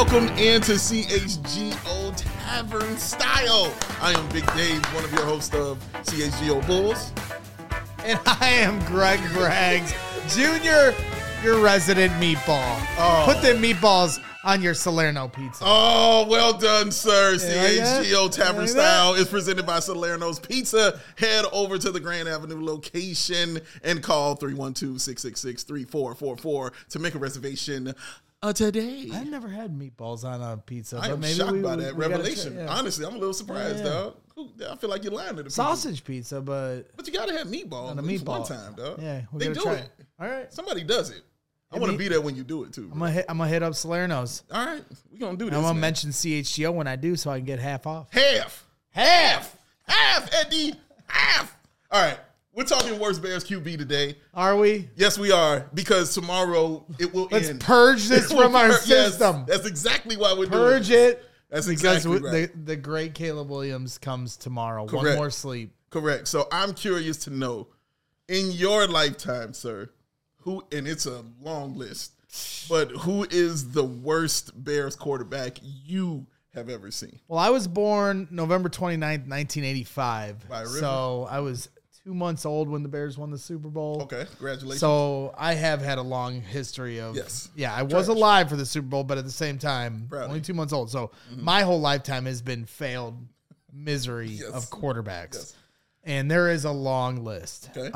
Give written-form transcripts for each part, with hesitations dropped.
Welcome into CHGO Tavern Style. I am Big Dave, one of your hosts of CHGO Bulls. And I am Greg Braggs, Jr., your resident meatball. Put the meatballs on your Salerno pizza. Oh, well done, sir. CHGO Tavern Like Style is presented by Salerno's Pizza. Head over to the Grand Avenue location and call 312-666-3444 to make a reservation today. I've never had meatballs on a pizza. I am maybe shocked by that revelation. Try, Honestly, I'm a little surprised, dog. I feel like you're lying to the people. Sausage pizza, but you gotta have meatballs on a at least meatball one time, dog. Yeah, they do try it. All right, Somebody does it. I want to be there when you do it too. I'm gonna hit up Salerno's. All right, we're gonna do this. I'm gonna man. mention CHGO when I do, so I can get half off. Half, Eddie, half. All right, we're talking worst Bears QB today. Are we? Yes, we are, because tomorrow it will Let's end. purge this from our system. Yes, that's exactly why we're doing Purge it. That's because exactly right. the great Caleb Williams comes tomorrow. Correct. One more sleep. Correct. So I'm curious to know, in your lifetime, sir, who, and it's a long list, but who is the worst Bears quarterback you have ever seen? Well, I was born November 29th, 1985. By a river. So I was 2 months old when the Bears won the Super Bowl. Okay, congratulations. So I have had a long history of, Yes. Yeah, I was alive for the Super Bowl, but at the same time, Proud. only 2 months old. So my whole lifetime has been failed misery Yes. of quarterbacks. Yes. And there is a long list. Okay.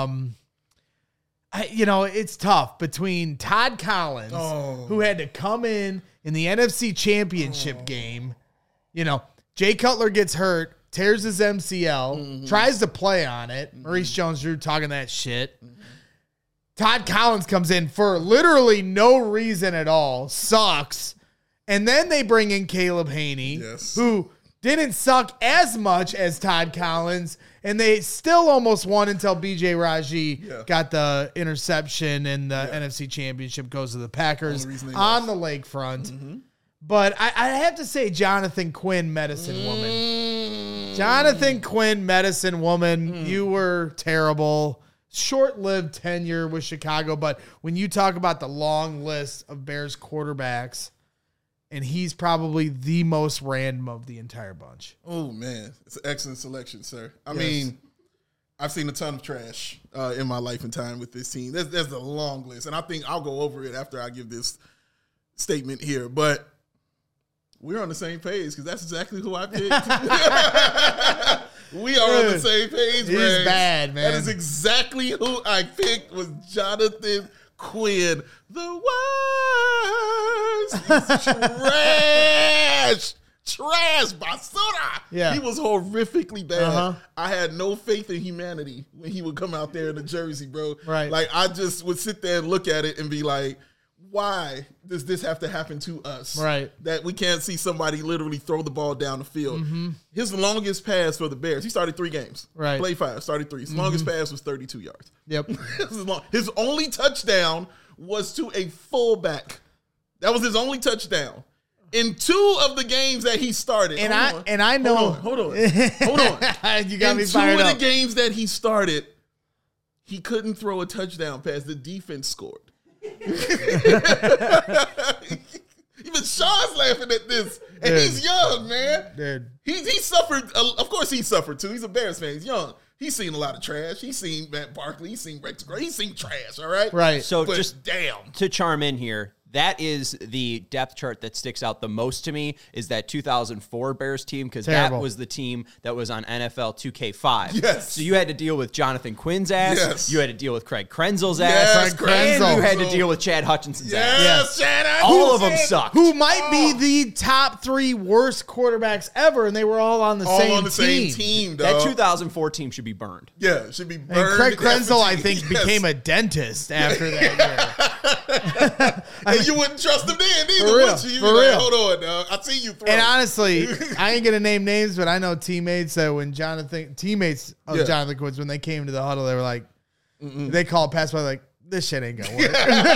It's tough between Todd Collins, who had to come in the NFC Championship game. Jay Cutler gets hurt, tears his MCL, tries to play on it. Maurice Jones-Drew talking that shit. Todd Collins comes in for literally no reason at all, sucks. And then they bring in Caleb Haney, who didn't suck as much as Todd Collins, and they still almost won until B.J. Raji got the interception, and the NFC Championship goes to the Packers on the lakefront. But I have to say Jonathan Quinn, Medicine Woman. Jonathan Quinn, Medicine Woman, you were terrible. Short-lived tenure with Chicago, but when you talk about the long list of Bears quarterbacks, and he's probably the most random of the entire bunch. Oh, man. It's an excellent selection, sir. I mean, I've seen a ton of trash in my life and time with this team. There's a long list, and I think I'll go over it after I give this statement here. But we're on the same page because that's exactly who I picked. We are on the same page, man. He's bad, man. That is exactly who I picked, was Jonathan Quinn. The worst. He's trash, basura. Yeah. He was horrifically bad. I had no faith in humanity when he would come out there in a jersey, bro. Right. Like, I just would sit there and look at it and be like, why does this have to happen to us? Right. That we can't see somebody literally throw the ball down the field. His longest pass for the Bears, he started 3 games. Right. Played 5, started 3. His longest pass was 32 yards. Yep. His only touchdown was to a fullback. That was his only touchdown. In 2 of the games that he started. And I know. Hold on. You got me fired up. In 2 of up. the games that he started, he couldn't throw a touchdown pass. The defense scored. Even Sean's laughing at this. And he's young, man. Dude. He suffered. Of course he suffered too. He's a Bears fan. He's young. He's seen a lot of trash. He's seen Matt Barkley. He's seen Rex Gray. He's seen trash, all right? Right. So But just damn. to chime in here, that is the depth chart that sticks out the most to me, is that 2004 Bears team, because that Terrible. was the team that was on NFL 2K5. Yes. So you had to deal with Jonathan Quinn's ass. Yes. You had to deal with Craig Krenzel's Yes, ass. Craig And Krenzel. you had to deal with Chad Hutchinson's ass. Yes, Chad. All of them sucked. Who might be the top 3 worst quarterbacks ever, and they were all on the All same on the team. same team, That dog. 2004 team should be burned. Yeah, it should be burned. And Craig Krenzel, I effigy. think, became a dentist after that year. And you wouldn't trust him then either, For real, would you? You'd be for like, real. hold on, dog. I see you throw. And honestly, I ain't gonna name names, but I know teammates that when teammates of Jonathan Quinn, when they came to the huddle, they were like, they called pass by like, this shit ain't gonna work.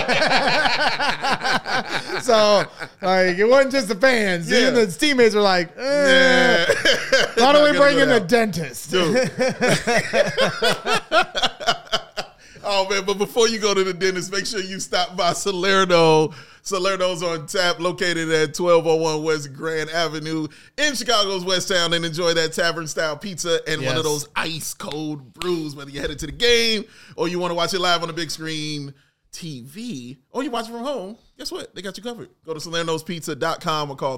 So like, it wasn't just the fans. Even the teammates were like, why don't we bring in a dentist? Dude. Oh Oh, man, but before you go to the dentist, make sure you stop by Salerno. Salerno's on tap, located at 1201 West Grand Avenue in Chicago's West Town, and enjoy that tavern-style pizza and one of those ice-cold brews, whether you're headed to the game or you want to watch it live on the big screen TV, or you watch it from home. Guess what? They got you covered. Go to salernospizza.com or call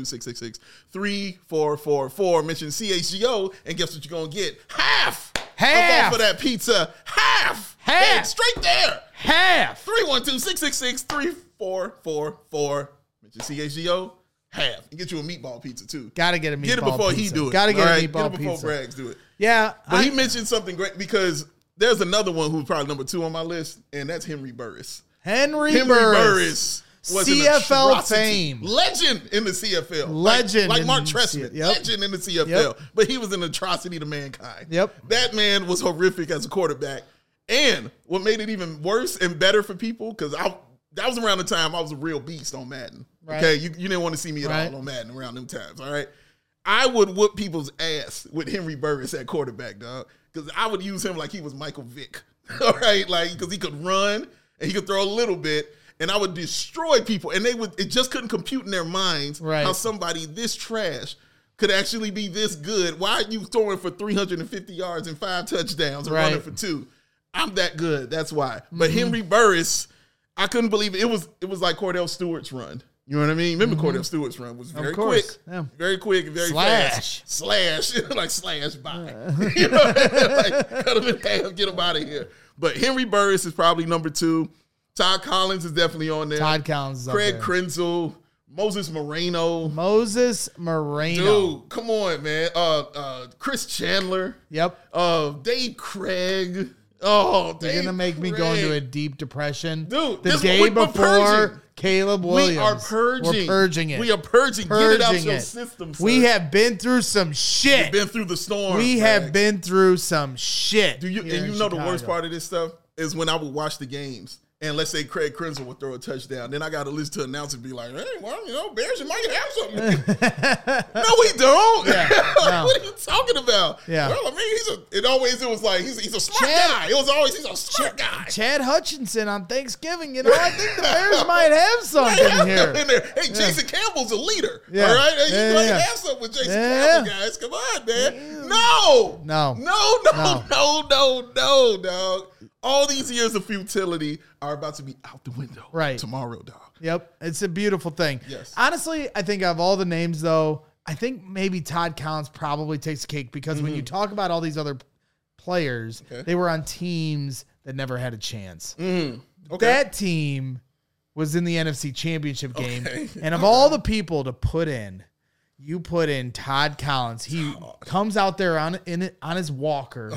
312-666-3444. Mention CHGO, and guess what you're going to get? Half off of that pizza. Half. And straight there. Half. 312-666-3444. Mention CHGO. Half. And get you a meatball pizza, too. Got to get a meatball pizza. Get it before he do it. Got to get a meatball get it before pizza. Braggs do it. Yeah. But he mentioned something great because there's another one who's probably number 2 on my list, and that's Henry Burris. Henry Burris was CFL fame. Legend in the CFL. Legend. Like Mark Trestman. Legend in the CFL. Yep. But he was an atrocity to mankind. Yep. That man was horrific as a quarterback. And what made it even worse and better for people, because that was around the time I was a real beast on Madden. Right. Okay, you didn't want to see me at all on Madden around them times, all right? I would whoop people's ass with Henry Burris at quarterback, dog, because I would use him like he was Michael Vick, all right? Like, because he could run and he could throw a little bit, and I would destroy people, and it just couldn't compute in their minds how somebody this trash could actually be this good. Why are you throwing for 350 yards and 5 touchdowns and running for 2? I'm that good. That's why. But Henry Burris, I couldn't believe it. It was like Cordell Stewart's run. You know what I mean? Remember Cordell Stewart's run was very quick. Yeah. Very quick and very fast. Slash. Like slash by. You know, like cut him in half, get him out of here. But Henry Burris is probably number 2. Todd Collins is definitely on there. Todd Collins is Craig up there. Krenzel. Moses Moreno. Dude, come on, man. Chris Chandler. Yep. Dave Craig. Oh, they're going to make me go into a deep depression. Dude, the day before Caleb Williams. We are purging. We're purging it. We are purging. Get it out of your system, sir. We have been through some shit. We've been through the storm. We have been through some shit. And you know the worst part of this stuff is when I would watch the games. And let's say Craig Krenzel would throw a touchdown. Then I got to listen to announcers be like, hey, well, Bears might have something. No, we don't. Yeah, no. What are you talking about? Yeah. Well, I mean, it was like, he's a smart guy. It was always, he's a smart guy. Chad Hutchinson on Thanksgiving, I think the Bears might have something here. In there. Hey, Jason Campbell's a leader. Yeah. All right? Hey, you might have something with Jason Campbell, guys. Come on, man. No, dog. All these years of futility are about to be out the window tomorrow, dog. Yep. It's a beautiful thing. Yes. Honestly, I think of all the names, though, I think maybe Todd Collins probably takes the cake because when you talk about all these other players, they were on teams that never had a chance. That team was in the NFC Championship game. And of all the people to put in, you put in Todd Collins. He comes out there on his walker.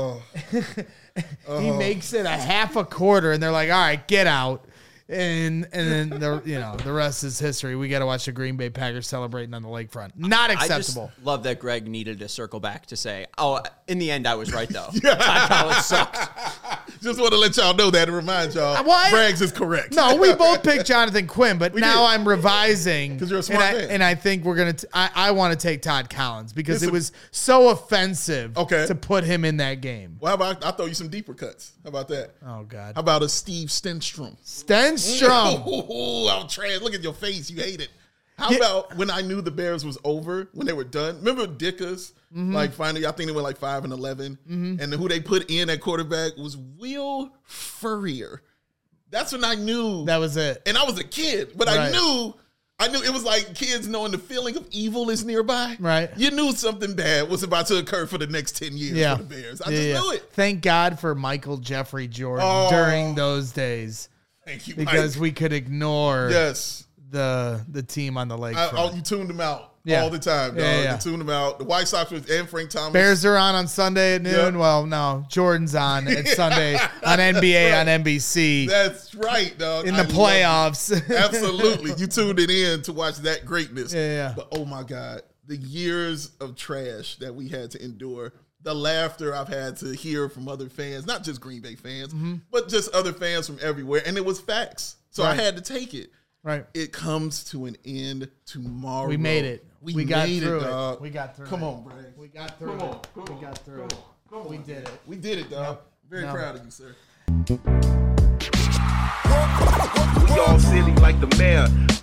He makes it a half a quarter, and they're like, "All right, get out." And then the rest is history. We got to watch the Green Bay Packers celebrating on the lakefront. Not acceptable. I just love that Greg needed to circle back to say, "Oh, in the end, I was right though." Todd Collins sucked. Just want to let y'all know that and remind y'all, Braggs is correct. No, we both picked Jonathan Quinn, but now I'm revising because you're a smart man. And I think we're gonna. I want to take Todd Collins because it was so offensive to put him in that game. Well, how about I throw you some deeper cuts? How about that? Oh God. How about a Steve Stenstrom? Oh, I'm trash. Look at your face. You hate it. How about when I knew the Bears was over, when they were done? Remember Dickus? Like finally, I think they went like 5-11. And who they put in at quarterback was Will Furrier. That's when I knew. That was it. And I was a kid, but I knew it was like kids knowing the feeling of evil is nearby. Right. You knew something bad was about to occur for the next 10 years for the Bears. I just knew it. Thank God for Michael Jeffrey Jordan during those days. Thank you, because we could ignore the team on the lakefront. You tuned them out all the time, dog. You tuned them out. The White Sox and Frank Thomas. Bears are on Sunday at noon. Yep. Well, no, Jordan's on at Sunday on NBA on NBC. That's right, dog. In the playoffs. Absolutely. You tuned it in to watch that greatness. Yeah. But oh my God, the years of trash that we had to endure. The laughter I've had to hear from other fans, not just Green Bay fans, but just other fans from everywhere. And it was facts. So I had to take it. Right. It comes to an end tomorrow. We made it. We got through dog. it. We got through it. Come on, Bragg. We got through it. We got through it. We did it. We did it, dog. Very proud of you, sir. We all silly like the mayor.